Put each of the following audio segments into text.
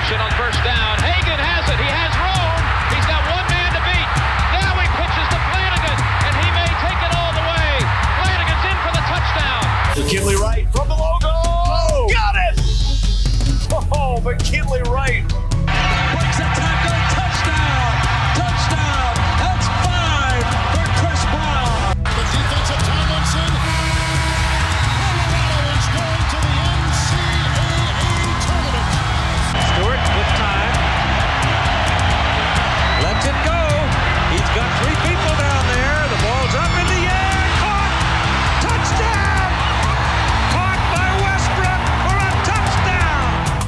motion on first down. Hagan has it. He has room. He's got one man to beat. Now he pitches to Flanagan, and he may take it all the way. Flanagan's in for the touchdown. McKinley Wright from the logo. Oh, got it! Oh, McKinley Wright. Breaks a tackle. Touchdown. Touchdown. That's 5 for Chris Brown. The defensive Tomlinson. Colorado is going to the NCAA tournament. Stewart with time. Lets it go. He's got 3 people down there. The ball's up in the air. Caught. Touchdown. Caught by Westbrook for a touchdown.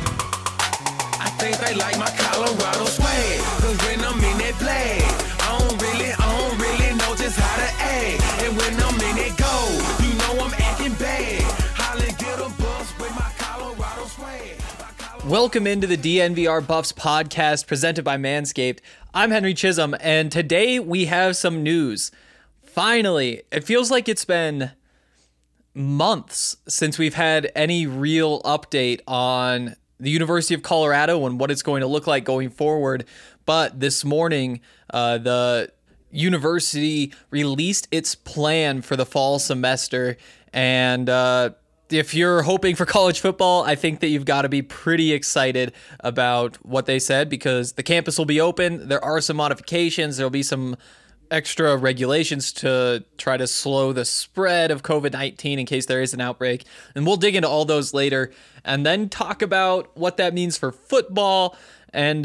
I think they like my Colorado swag, 'cause when I'm in that play, I don't really know just how to act. And when I'm in it go, you know I'm acting bad. Holland get a bus with my Colorado swag. Welcome into the DNVR Buffs podcast presented by Manscaped. I'm Henry Chisholm, and today we have some news. Finally, it feels like it's been months since we've had any real update on the University of Colorado and what it's going to look like going forward. But this morning, the university released its plan for the fall semester, and if you're hoping for college football, I think that you've got to be pretty excited about what they said, because the campus will be open. There are some modifications. There'll be some extra regulations to try to slow the spread of COVID-19 in case there is an outbreak. And we'll dig into all those later and then talk about what that means for football. And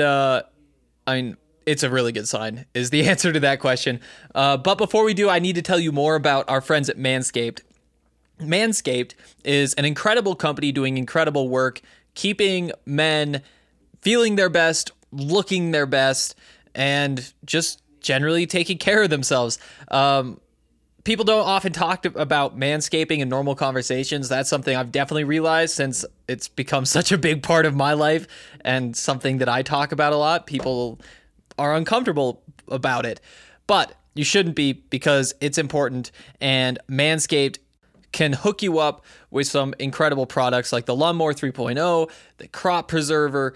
it's a really good sign is the answer to that question. But before we do, I need to tell you more about our friends at Manscaped. Manscaped is an incredible company doing incredible work, keeping men feeling their best, looking their best, and just generally taking care of themselves. People don't often talk about manscaping in normal conversations. That's something I've definitely realized since it's become such a big part of my life and something that I talk about a lot. People are uncomfortable about it, but you shouldn't be, because it's important, and Manscaped can hook you up with some incredible products like the Lawnmower 3.0, the Crop Preserver,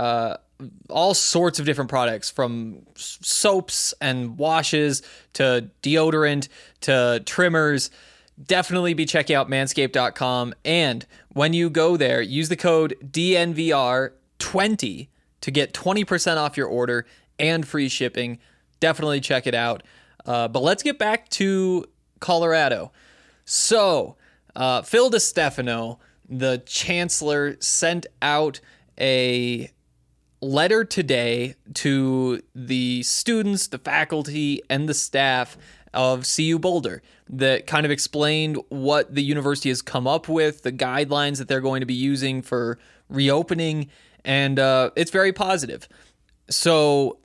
all sorts of different products, from soaps and washes to deodorant to trimmers. Definitely be checking out manscaped.com. And when you go there, use the code DNVR20 to get 20% off your order and free shipping. Definitely check it out. But let's get back to Colorado. So, Phil DeStefano, the chancellor, sent out a letter today to the students, the faculty, and the staff of CU Boulder that kind of explained what the university has come up with, the guidelines that they're going to be using for reopening, and it's very positive. So,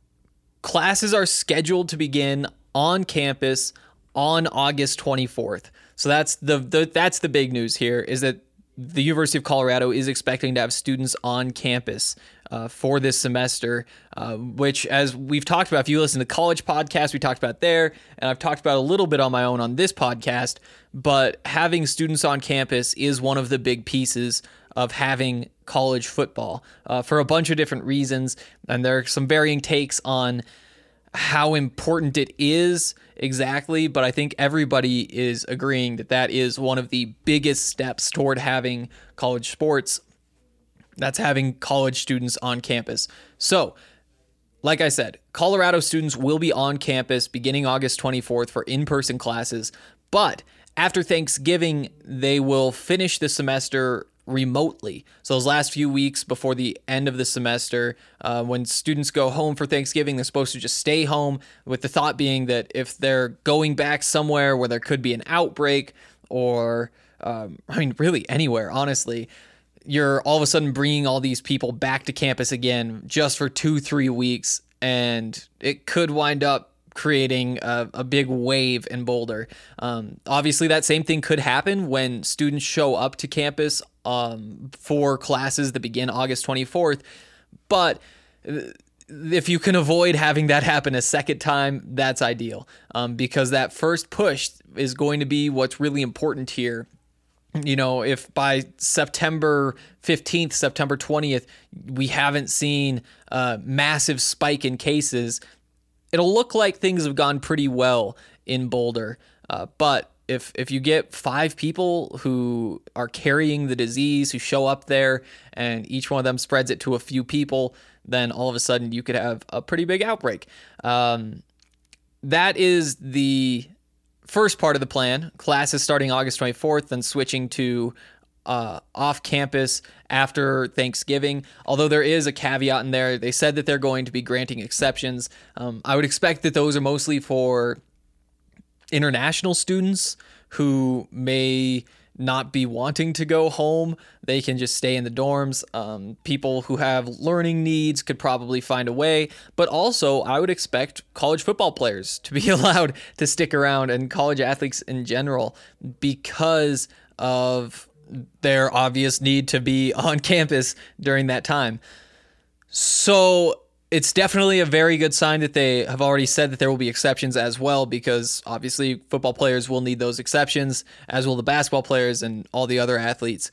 classes are scheduled to begin on campus on August 24th. So that's the big news here, is that the University of Colorado is expecting to have students on campus for this semester, which, as we've talked about, if you listen to college podcasts, we talked about there, and I've talked about a little bit on my own on this podcast, but having students on campus is one of the big pieces of having college football for a bunch of different reasons, and there are some varying takes on how important it is exactly, but I think everybody is agreeing that that is one of the biggest steps toward having college sports. That's having college students on campus. So, like I said, Colorado students will be on campus beginning August 24th for in-person classes, but after Thanksgiving, they will finish the semester remotely. So those last few weeks before the end of the semester, when students go home for Thanksgiving, they're supposed to just stay home, with the thought being that if they're going back somewhere where there could be an outbreak, or really anywhere, honestly, you're all of a sudden bringing all these people back to campus again just for 2-3 weeks, and it could wind up creating a big wave in Boulder. Obviously, that same thing could happen when students show up to campus for classes that begin August 24th. But if you can avoid having that happen a second time, that's ideal, because that first push is going to be what's really important here. if by September 15th, September 20th, we haven't seen a massive spike in cases, it'll look like things have gone pretty well in Boulder. But if you get 5 people who are carrying the disease, who show up there, and each one of them spreads it to a few people, then all of a sudden you could have a pretty big outbreak. That is the first part of the plan. Classes starting August 24th, then switching to off campus after Thanksgiving. Although there is a caveat in there. They said that they're going to be granting exceptions. I would expect that those are mostly for international students who may not be wanting to go home. They can just stay in the dorms. People who have learning needs could probably find a way. But also, I would expect college football players to be allowed to stick around, and college athletes in general, because of their obvious need to be on campus during that time. So it's definitely a very good sign that they have already said that there will be exceptions as well, because obviously football players will need those exceptions, as will the basketball players and all the other athletes.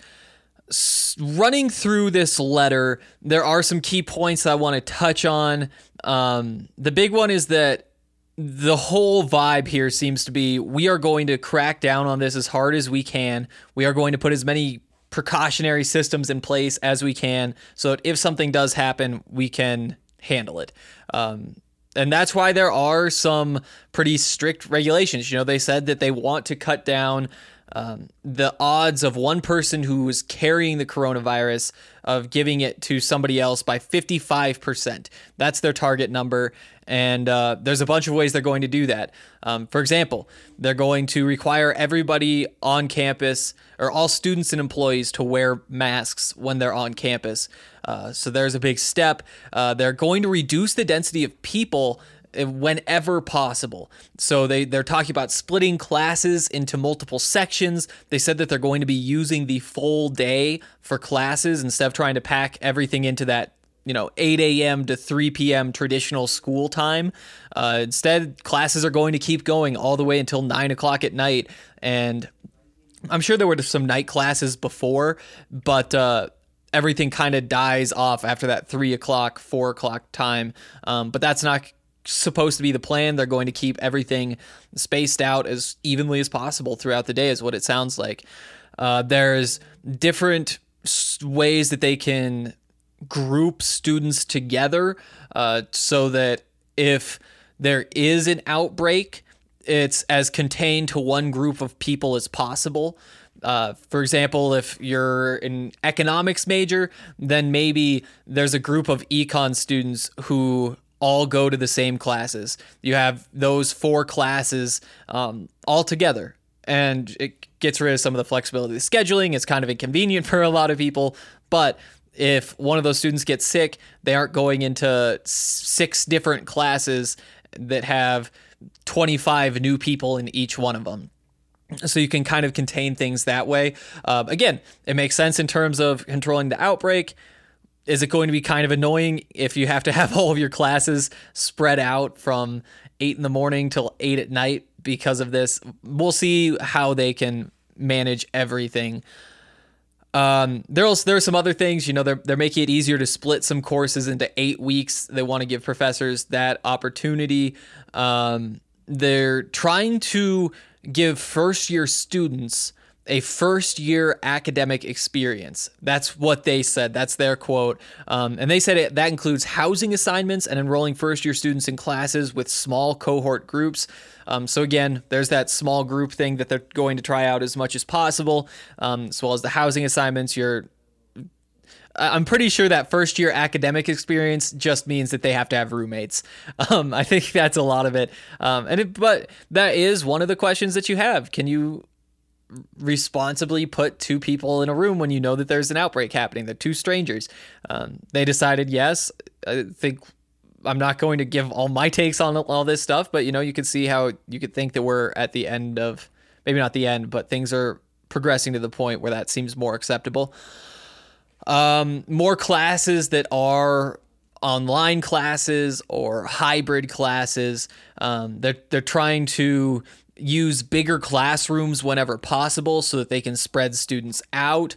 Running through this letter, there are some key points that I want to touch on. The big one is that the whole vibe here seems to be, we are going to crack down on this as hard as we can. We are going to put as many precautionary systems in place as we can, so that if something does happen, we can handle it. And that's why there are some pretty strict regulations. They said that they want to cut down the odds of one person who is carrying the coronavirus of giving it to somebody else by 55%. That's their target number. And there's a bunch of ways they're going to do that. For example, they're going to require everybody on campus, or all students and employees, to wear masks when they're on campus. So there's a big step. They're going to reduce the density of people whenever possible. So they're talking about splitting classes into multiple sections. They said that they're going to be using the full day for classes instead of trying to pack everything into that 8 a.m. to 3 p.m. traditional school time. Instead, classes are going to keep going all the way until 9 o'clock at night. And I'm sure there were some night classes before, but everything kind of dies off after that 3 o'clock, 4 o'clock time. But that's not supposed to be the plan. They're going to keep everything spaced out as evenly as possible throughout the day, is what it sounds like. There's different ways that they can group students together so that if there is an outbreak, it's as contained to one group of people as possible. For example, if you're an economics major, then maybe there's a group of econ students who all go to the same classes. You have those 4 classes all together, and it gets rid of some of the flexibility of scheduling. It's kind of inconvenient for a lot of people, but if one of those students gets sick, they aren't going into 6 different classes that have 25 new people in each one of them. So you can kind of contain things that way. Again, it makes sense in terms of controlling the outbreak. Is it going to be kind of annoying if you have to have all of your classes spread out from 8 in the morning till 8 at night because of this? We'll see how they can manage everything. There are some other things, they're making it easier to split some courses into 8 weeks. They want to give professors that opportunity. They're trying to give first-year students a first-year academic experience. That's what they said. That's their quote. And they said that includes housing assignments and enrolling first-year students in classes with small cohort groups. So again, there's that small group thing that they're going to try out as much as possible, as well as the housing assignments. I'm pretty sure that first-year academic experience just means that they have to have roommates. I think that's a lot of it. But that is one of the questions that you have. Can you responsibly put 2 people in a room when you know that there's an outbreak happening? They're 2 strangers. They decided yes. I think I'm not going to give all my takes on all this stuff, but you could see how you could think that we're at the end of, maybe not the end, but things are progressing to the point where that seems more acceptable. More classes that are online classes or hybrid classes. They're trying to use bigger classrooms whenever possible so that they can spread students out.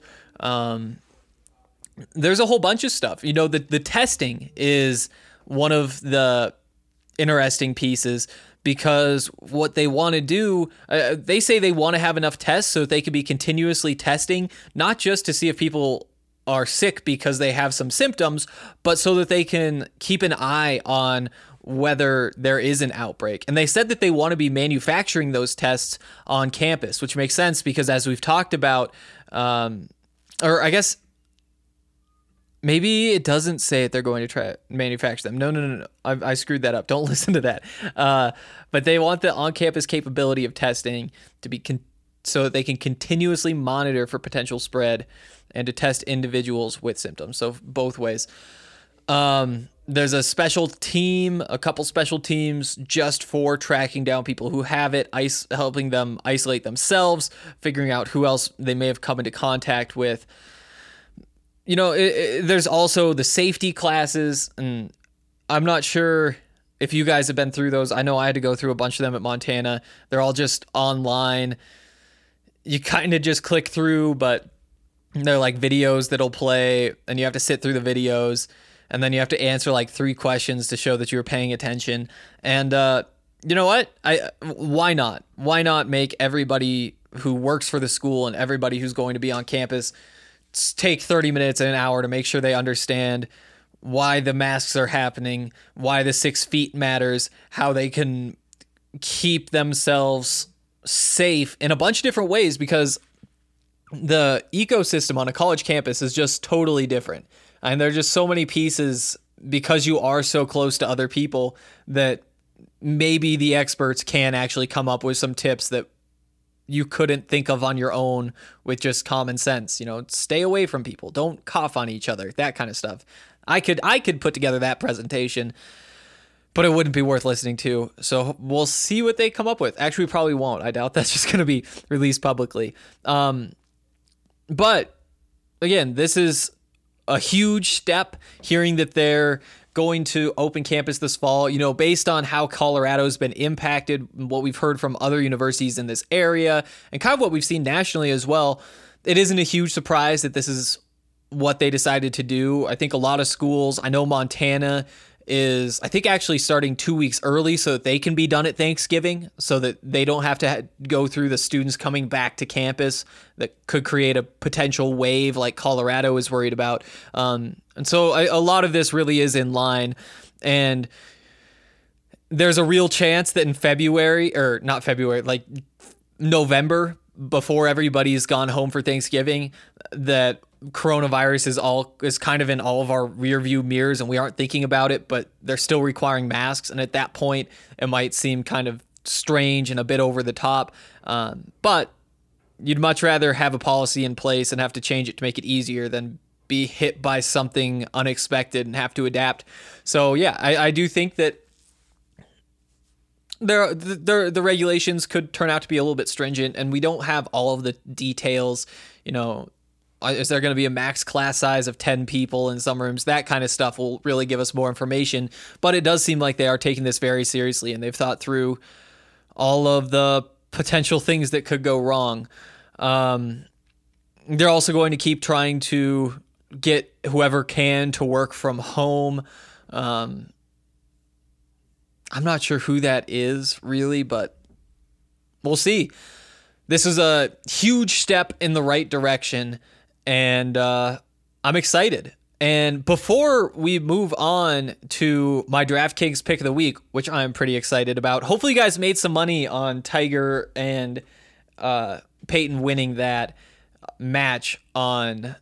There's a whole bunch of stuff. You know, the testing is one of the interesting pieces, because what they want to do, they say they want to have enough tests so that they can be continuously testing, not just to see if people are sick because they have some symptoms, but so that they can keep an eye on whether there is an outbreak. And they said that they want to be manufacturing those tests on campus, which makes sense because, as we've talked about, or I guess maybe it doesn't say that they're going to try to manufacture them. No. I screwed that up. Don't listen to that. But they want the on-campus capability of testing to be so that they can continuously monitor for potential spread and to test individuals with symptoms. So both ways. There's a special team, a couple special teams just for tracking down people who have it, helping them isolate themselves, figuring out who else they may have come into contact with. You know, there's also the safety classes, and I'm not sure if you guys have been through those. I know I had to go through a bunch of them at Montana. They're all just online. You kind of just click through, but they're like videos that'll play, and you have to sit through the videos, and then you have to answer like 3 questions to show that you were paying attention. And you know what? Why not? Why not make everybody who works for the school and everybody who's going to be on campus take 30 minutes and an hour to make sure they understand why the masks are happening, why the 6 feet matters, how they can keep themselves safe in a bunch of different ways, because the ecosystem on a college campus is just totally different. And there are just so many pieces, because you are so close to other people, that maybe the experts can actually come up with some tips that you couldn't think of on your own with just common sense. You know, stay away from people, don't cough on each other, that kind of stuff. I could put together that presentation, but it wouldn't be worth listening to. So we'll see what they come up with. Actually, we probably won't. I doubt that's just going to be released publicly. But again, this is a huge step, hearing that they're going to open campus this fall, you know, based on how Colorado's been impacted, what we've heard from other universities in this area, and kind of what we've seen nationally as well. It isn't a huge surprise that this is what they decided to do. I think a lot of schools, I know Montana is, I think, actually starting 2 weeks early so that they can be done at Thanksgiving, so that they don't have to go through the students coming back to campus that could create a potential wave like Colorado is worried about. And so a lot of this really is in line. And there's a real chance that in February, or not February, like November, before everybody's gone home for Thanksgiving, that coronavirus is kind of in all of our rear view mirrors and we aren't thinking about it, but they're still requiring masks. And at that point, it might seem kind of strange and a bit over the top. But you'd much rather have a policy in place and have to change it to make it easier than be hit by something unexpected and have to adapt. So yeah, I do think that the regulations could turn out to be a little bit stringent, and we don't have all of the details. You know, is there going to be a max class size of 10 people in some rooms? That kind of stuff will really give us more information. But it does seem like they are taking this very seriously, and they've thought through all of the potential things that could go wrong. They're also going to keep trying to get whoever can to work from home. I'm not sure who that is really, but we'll see. This is a huge step in the right direction, and I'm excited. And before we move on to my DraftKings pick of the week, which I'm pretty excited about, hopefully you guys made some money on Tiger and Peyton winning that match on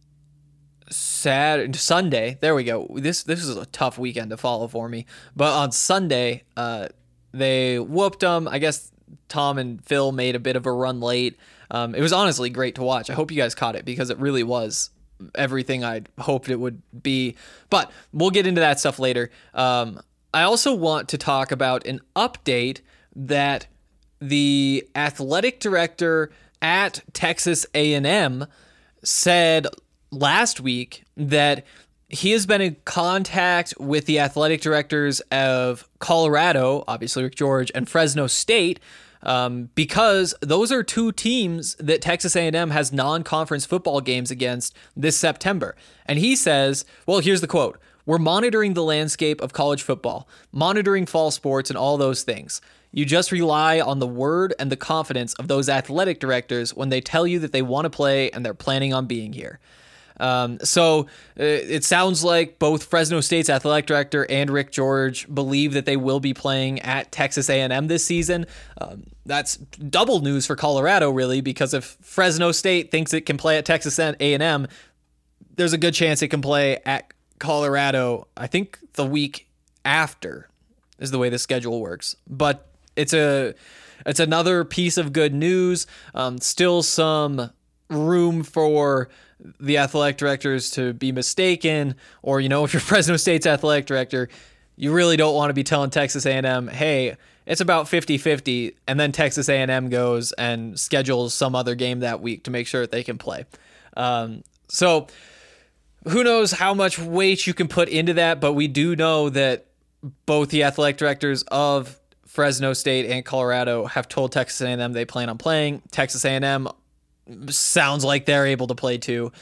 Sunday. There we go. This is a tough weekend to follow for me. But on Sunday, they whooped them. I guess Tom and Phil made a bit of a run late. It was honestly great to watch. I hope you guys caught it because it really was everything I'd hoped it would be. But we'll get into that stuff later. I also want to talk about an update that the athletic director at Texas A&M said last week, that he has been in contact with the athletic directors of Colorado, obviously Rick George, and Fresno State, because those are two teams that Texas A&M has non-conference football games against this September. And he says, well, here's the quote: "We're monitoring the landscape of college football, monitoring fall sports and all those things. You just rely on the word and the confidence of those athletic directors when they tell you that they want to play and they're planning on being here." So it sounds like both Fresno State's athletic director and Rick George believe that they will be playing at Texas A&M this season. That's double news for Colorado, really, because if Fresno State thinks it can play at Texas A&M, there's a good chance it can play at Colorado, I think the week after is the way the schedule works. But it's another piece of good news. Still some room for the athletic directors to be mistaken, or, if you're Fresno State's athletic director, you really don't want to be telling Texas A&M, hey, it's about 50-50, and then Texas A&M goes and schedules some other game that week to make sure that they can play. So who knows how much weight you can put into that, but we do know that both the athletic directors of Fresno State and Colorado have told Texas A&M they plan on playing. Texas A&M sounds like they're able to play too.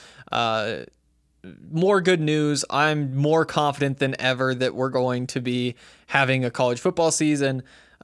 More good news. I'm more confident than ever that we're going to be having a college football season.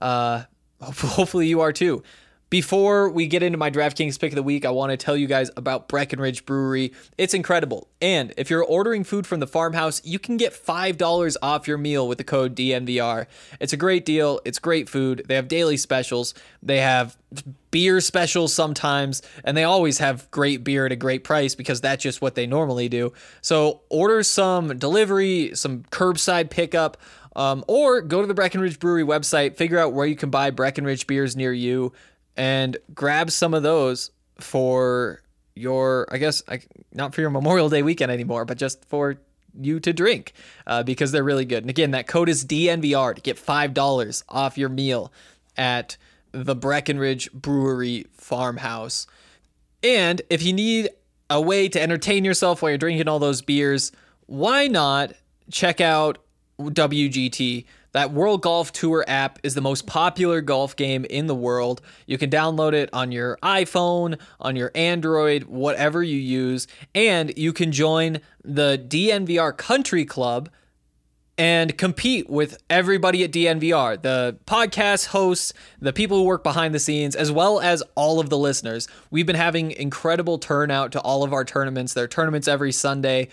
Hopefully you are too. Before we get into my DraftKings pick of the week, I want to tell you guys about Breckenridge Brewery. It's incredible. And if you're ordering food from the farmhouse, you can get $5 off your meal with the code DNVR. It's a great deal. It's great food. They have daily specials. They have beer specials sometimes, and they always have great beer at a great price because that's just what they normally do. So order some delivery, some curbside pickup, or go to the Breckenridge Brewery website, figure out where you can buy Breckenridge beers near you, and grab some of those for your, not for your Memorial Day weekend anymore, but just for you to drink, because they're really good. And again, that code is DNVR to get $5 off your meal at the Breckenridge Brewery Farmhouse. And if you need a way to entertain yourself while you're drinking all those beers, why not check out WGT? That World Golf Tour app is the most popular golf game in the world. You can download it on your iPhone, on your Android, whatever you use, and you can join the DNVR Country Club and compete with everybody at DNVR, the podcast hosts, the people who work behind the scenes, as well as all of the listeners. We've been having incredible turnout to all of our tournaments. There are tournaments every Sunday.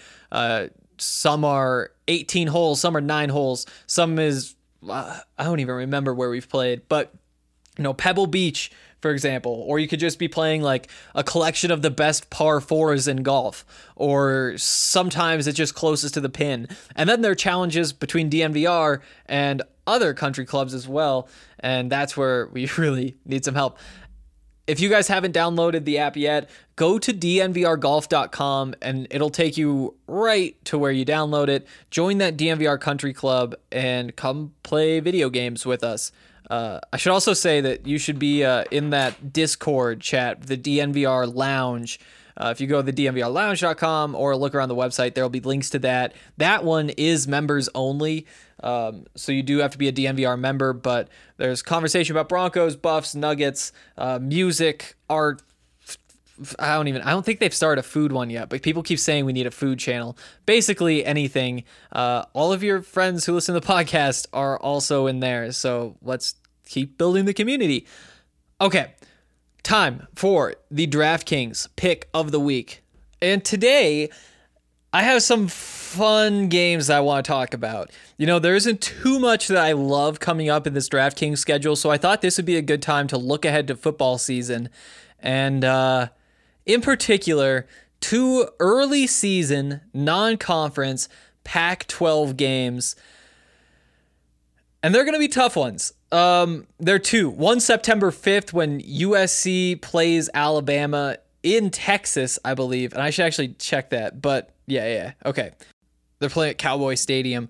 Some are 18 holes, some are 9 holes, some is, I don't even remember where we've played, but, Pebble Beach, for example, or you could just be playing like a collection of the best par fours in golf, or sometimes it's just closest to the pin. And then there are challenges between DNVR and other country clubs as well, and that's where we really need some help. If you guys haven't downloaded the app yet, go to dnvrgolf.com and it'll take you right to where you download it. Join that DNVR Country Club and come play video games with us. I should also say that you should be in that Discord chat, the DNVR Lounge. If you go to the dnvrlounge.com or look around the website, there will be links to that. That one is members only. So you do have to be a DNVR member, but there's conversation about Broncos, Buffs, Nuggets, music, art. I don't think they've started a food one yet, but people keep saying we need a food channel. Basically anything. All of your friends who listen to the podcast are also in there. So let's keep building the community. Okay. Time for the DraftKings pick of the week. And today, I have some fun games I want to talk about. There isn't too much that I love coming up in this DraftKings schedule, so I thought this would be a good time to look ahead to football season. And in particular, 2 early season, non-conference, Pac-12 games. And they're going to be tough ones. There are 2. One September 5th when USC plays Alabama in Texas, I believe. And I should actually check that. But yeah. Okay. They're playing at Cowboy Stadium.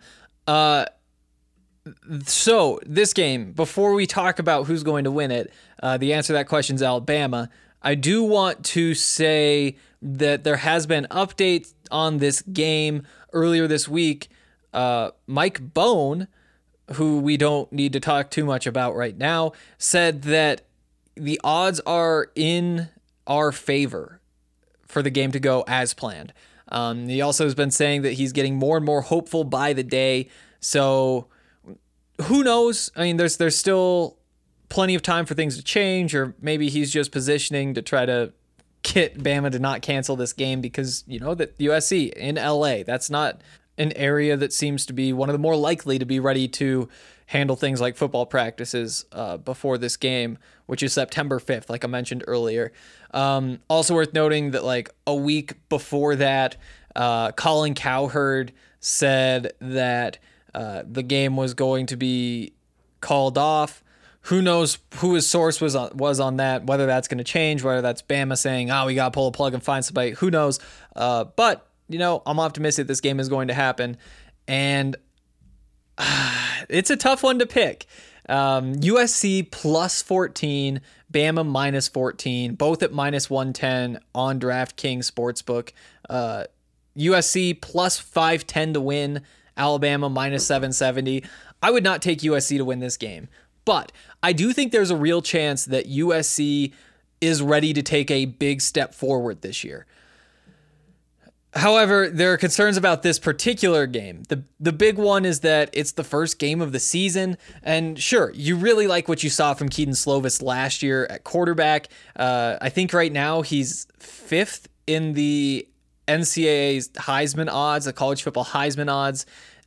So this game, before we talk about who's going to win it, the answer to that question is Alabama. I do want to say that there has been updates on this game earlier this week. Mike Bone, who we don't need to talk too much about right now, said that the odds are in our favor for the game to go as planned. He also has been saying that he's getting more and more hopeful by the day. So who knows? I mean, there's still plenty of time for things to change, or maybe he's just positioning to try to get Bama to not cancel this game because, that USC in LA, that's not an area that seems to be one of the more likely to be ready to handle things like football practices before this game, which is September 5th, like I mentioned earlier. Also worth noting that like a week before that, Colin Cowherd said that the game was going to be called off. Who knows who his source was on that, whether that's going to change, whether that's Bama saying, we got to pull a plug and find somebody. Who knows? But, I'm optimistic this game is going to happen. And it's a tough one to pick. USC plus 14, Bama minus 14, both at minus 110 on DraftKings Sportsbook. USC plus 510 to win, Alabama minus 770. I would not take USC to win this game, but I do think there's a real chance that USC is ready to take a big step forward this year. However, there are concerns about this particular game. The big one is that it's the first game of the season, and sure, you really like what you saw from Kedon Slovis last year at quarterback. I think right now he's 5th in the NCAA's Heisman odds, the college football Heisman odds.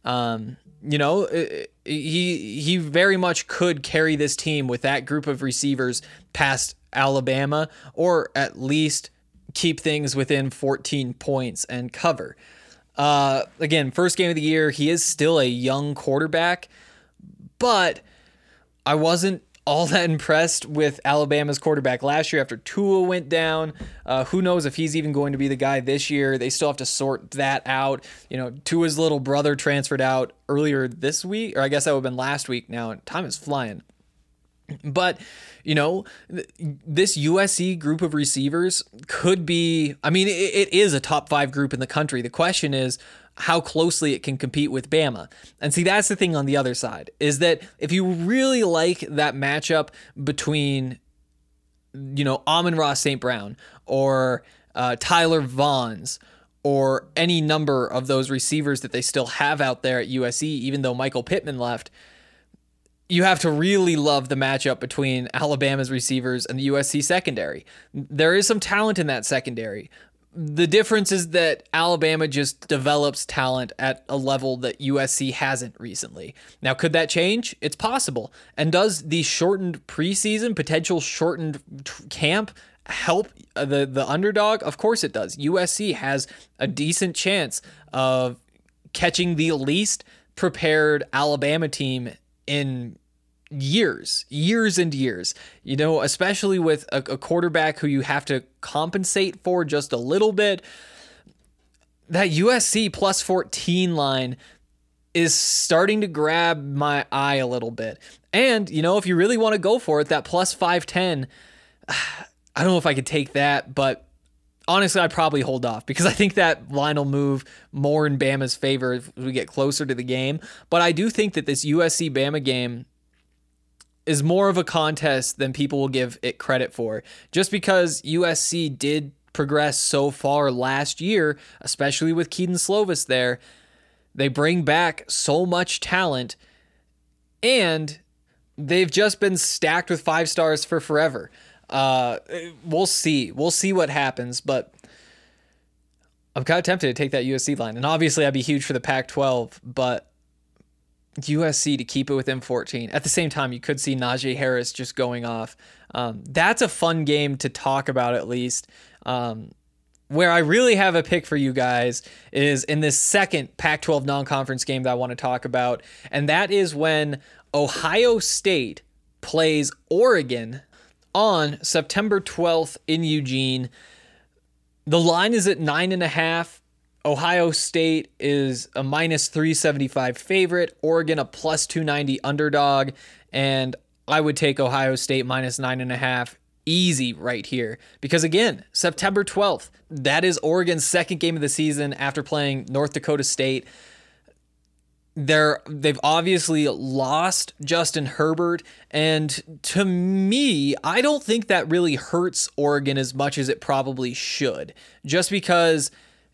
He very much could carry this team with that group of receivers past Alabama, or at least keep things within 14 points and cover. Again, first game of the year, he is still a young quarterback, but I wasn't all that impressed with Alabama's quarterback last year after Tua went down. Who knows if he's even going to be the guy this year. They still have to sort that out. Tua's little brother transferred out earlier this week, or I guess that would have been last week now, and time is flying. But, this USC group of receivers could be, it is a top 5 group in the country. The question is how closely it can compete with Bama. And see, that's the thing on the other side, is that if you really like that matchup between, Amon-Ra St. Brown or Tyler Vaughns, or any number of those receivers that they still have out there at USC, even though Michael Pittman left, you have to really love the matchup between Alabama's receivers and the USC secondary. There is some talent in that secondary. The difference is that Alabama just develops talent at a level that USC hasn't recently. Now, could that change? It's possible. And does the shortened preseason, potential shortened camp help the underdog? Of course it does. USC has a decent chance of catching the least prepared Alabama team in years and years, especially with a quarterback who you have to compensate for just a little bit. That USC plus 14 line is starting to grab my eye a little bit. And, if you really want to go for it, that plus 510, I don't know if I could take that, but honestly, I'd probably hold off because I think that line will move more in Bama's favor if we get closer to the game. But I do think that this USC-Bama game is more of a contest than people will give it credit for, just because USC did progress so far last year, especially with Kedon Slovis there. They bring back so much talent, and they've just been stacked with 5 stars for forever. We'll see what happens, but I'm kind of tempted to take that USC line. And obviously I'd be huge for the Pac-12, but USC to keep it within 14. At the same time, you could see Najee Harris just going off. That's a fun game to talk about, at least. Where I really have a pick for you guys is in this second Pac-12 non-conference game that I want to talk about. And that is when Ohio State plays Oregon on September 12th in Eugene. The line is at 9.5. Ohio State is a minus 375 favorite. Oregon a plus 290 underdog. And I would take Ohio State minus 9.5 easy right here. Because again, September 12th, that is Oregon's second game of the season after playing North Dakota State. They've obviously lost Justin Herbert, and to me, I don't think that really hurts Oregon as much as it probably should, just because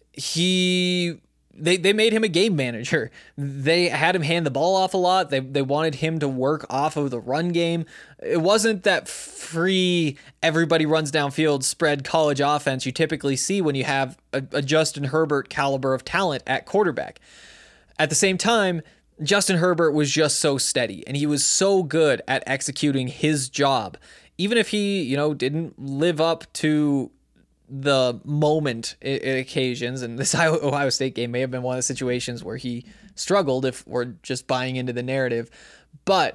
they made him a game manager. They had him hand the ball off a lot. They wanted him to work off of the run game. It wasn't that free, everybody runs downfield spread college offense you typically see when you have a Justin Herbert caliber of talent at quarterback. At the same time, Justin Herbert was just so steady, and he was so good at executing his job. Even if he, didn't live up to the moment at occasions, and this Ohio State game may have been one of the situations where he struggled if we're just buying into the narrative. But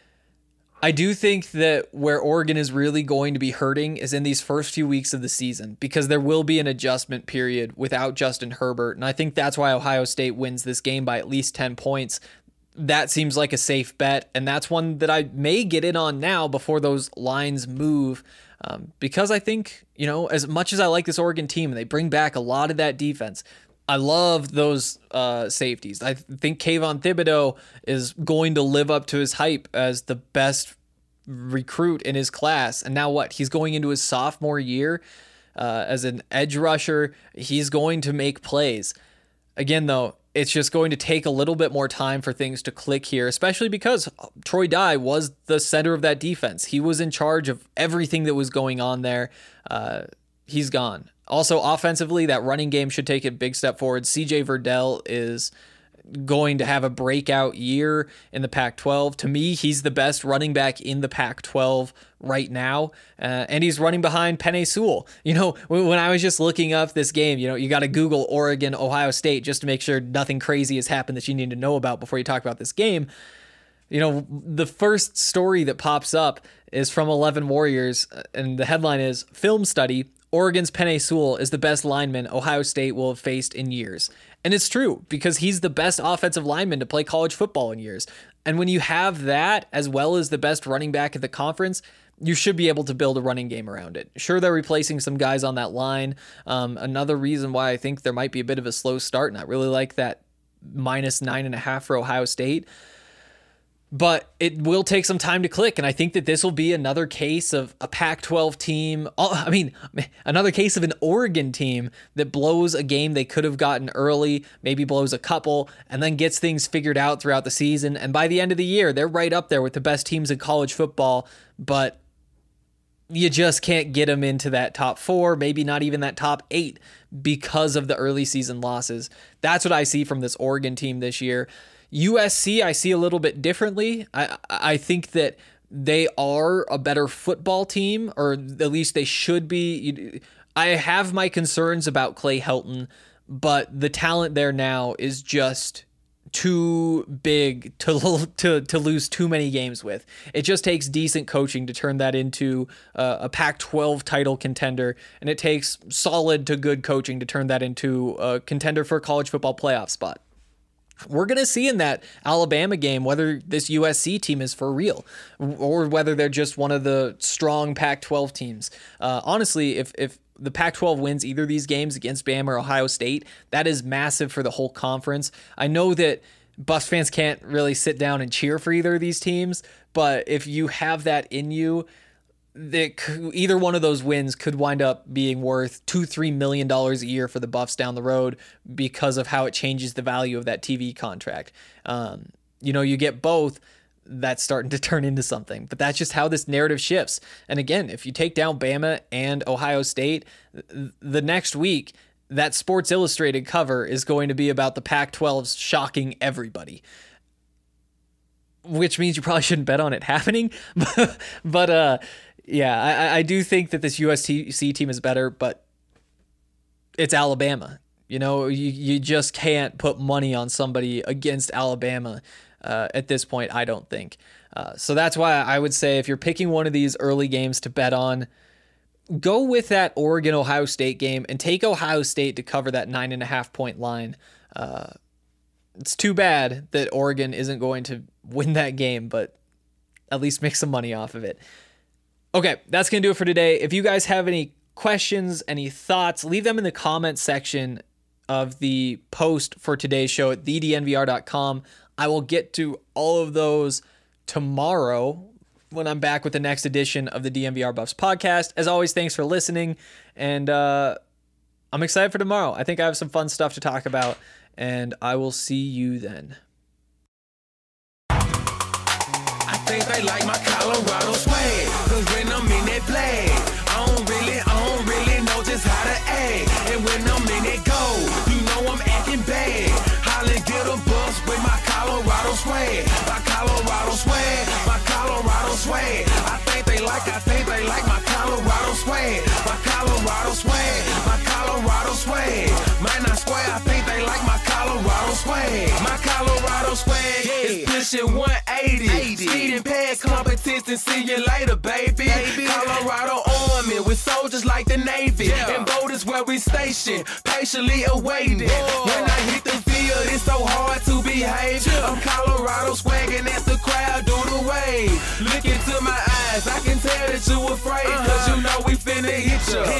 I do think that where Oregon is really going to be hurting is in these first few weeks of the season, because there will be an adjustment period without Justin Herbert. And I think that's why Ohio State wins this game by at least 10 points. That seems like a safe bet. And that's one that I may get in on now before those lines move. Because I think, as much as I like this Oregon team, they bring back a lot of that defense. I love those safeties. I think Kayvon Thibodeau is going to live up to his hype as the best recruit in his class. And now what? He's going into his sophomore year as an edge rusher. He's going to make plays. Again, though, it's just going to take a little bit more time for things to click here, especially because Troy Dye was the center of that defense. He was in charge of everything that was going on there. He's gone. Also, offensively, that running game should take a big step forward. CJ Verdell is going to have a breakout year in the Pac-12. To me, he's the best running back in the Pac-12 right now, and he's running behind Penei Sewell. When I was just looking up this game, you got to Google Oregon, Ohio State just to make sure nothing crazy has happened that you need to know about before you talk about this game. The first story that pops up is from 11 Warriors, and the headline is, Film Study, Oregon's Penei Sewell is the best lineman Ohio State will have faced in years. And it's true, because he's the best offensive lineman to play college football in years. And when you have that, as well as the best running back at the conference, you should be able to build a running game around it. Sure, they're replacing some guys on that line. Another reason why I think there might be a bit of a slow start, and I really like that -9.5 for Ohio State. But it will take some time to click, and I think that this will be another case of a Pac-12 team. Another case of an Oregon team that blows a game they could have gotten early, maybe blows a couple, and then gets things figured out throughout the season. And by the end of the year, they're right up there with the best teams in college football, but you just can't get them into that top 4, maybe not even that top 8, because of the early season losses. That's what I see from this Oregon team this year. USC, I see a little bit differently. I think that they are a better football team, or at least they should be. I have my concerns about Clay Helton, but the talent there now is just too big to lose too many games with. It just takes decent coaching to turn that into a Pac-12 title contender, and it takes solid to good coaching to turn that into a contender for a college football playoff spot. We're going to see in that Alabama game whether this USC team is for real or whether they're just one of the strong Pac-12 teams. Honestly, if the Pac-12 wins either of these games against Bama or Ohio State, that is massive for the whole conference. I know that Buffs fans can't really sit down and cheer for either of these teams, but if you have that in you, either one of those wins could wind up being worth $2-3 million a year for the Buffs down the road because of how it changes the value of that TV contract. You get both, that's starting to turn into something, but that's just how this narrative shifts. And again, if you take down Bama and Ohio State, the next week, that Sports Illustrated cover is going to be about the Pac-12 shocking everybody, which means you probably shouldn't bet on it happening. But yeah, I do think that this USC team is better, but it's Alabama. You just can't put money on somebody against Alabama at this point, I don't think. So that's why I would say if you're picking one of these early games to bet on, go with that Oregon-Ohio State game and take Ohio State to cover that 9.5 point line. It's too bad that Oregon isn't going to win that game, but at least make some money off of it. Okay, that's going to do it for today. If you guys have any questions, any thoughts, leave them in the comments section of the post for today's show at thednvr.com. I will get to all of those tomorrow when I'm back with the next edition of the DNVR Buffs podcast. As always, thanks for listening, and I'm excited for tomorrow. I think I have some fun stuff to talk about, and I will see you then. I think they like my Colorado swag, cause when I'm in that play, I don't really know just how to act. And when I'm in that go, you know I'm acting bad. Holla, get a bus with my Colorado swag. My Colorado swag, my Colorado swag. I think they like my Colorado swag. My Colorado swag, my Colorado swag. Man, I swear, I think they like my Colorado swag. My Colorado swag is pushing 180. Speeding past competition, see you later, baby. Colorado Army with soldiers like the Navy. And boat is where we station, patiently awaiting. When I hit the field, it's so hard to behave. I'm Colorado swagging as the crowd do the wave. Look into my eyes, I can tell that you afraid. Cause you know we finna hit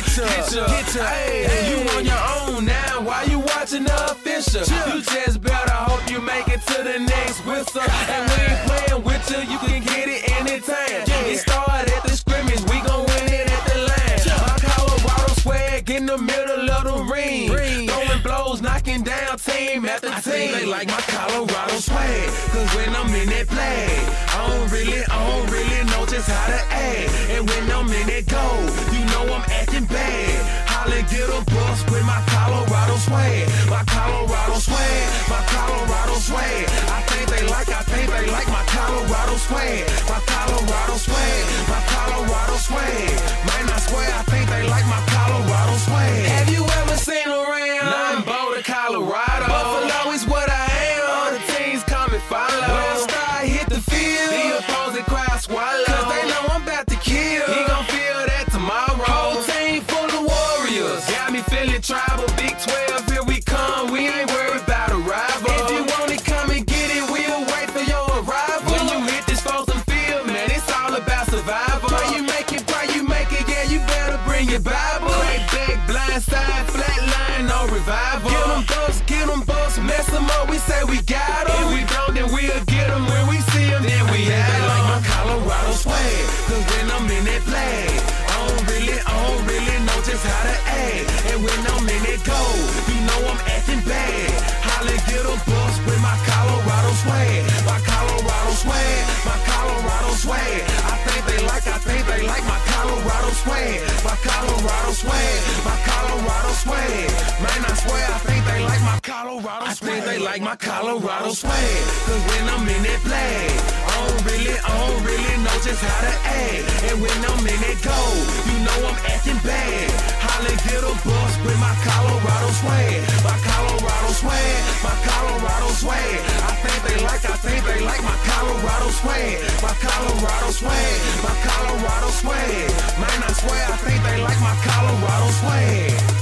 ya. Hey, you on your own now, why you watching the official? You just better hope you make it to the next whistle. And we ain't playing with you can get it anytime. It started at the scrimmage, we gon' win it at the line. My Colorado swag in the middle of the ring. Throwing blows, knocking down team after team. I think they like my Colorado swag, cause when I'm in that play, I don't really know just how to act. And when I'm in that go, you know I'm acting bad. Holla, get a bus with my Colorado swag. My Colorado swag, my Colorado swag. I think they like my Colorado swag. My Colorado swag, my Colorado swag. Man, I swear, I think they like my Colorado swag. Have you ever seen around? I'm Boulder, Colorado. Buffalo is what I am. All the teams come and follow. When I start hit the field, the opposing crowd swallow. Cause they know I'm about to kill. He gon' feel that tomorrow. Whole team full of warriors. Got me feeling tribal. Big 12, here we come. We ain't worried about a rival. If you want it, come and get it. We'll wait for your arrival. When you hit this frozen field, man, it's all about survival. Pray you make it, yeah, you better bring your Bible. Crack back, blind side, flat line, no revival. Get them bucks, mess them up, we say we got them. If we don't, then we'll get them. When we see them, then we have them. Like my Colorado swag, cause when I'm in that flag, I don't really know just how to act. And when I'm in that go, you know I'm acting bad. Holla, get a bus with my Colorado swag. My Colorado swag, my Colorado swag. I think they like my Colorado swag. My Colorado swag, my Colorado swag. Man, I swear, I think they like my Colorado swag. I think they like my Colorado swag. Cause when I'm in that flag, I don't really know just how to act. And when I'm in that go, you know I'm acting bad. Holla, get a bus with my Colorado swag. My Colorado swag, my Colorado swag. I think they like my Colorado swag. My Colorado swag, my Colorado swag. Man, I swear, I think they like my Colorado swag.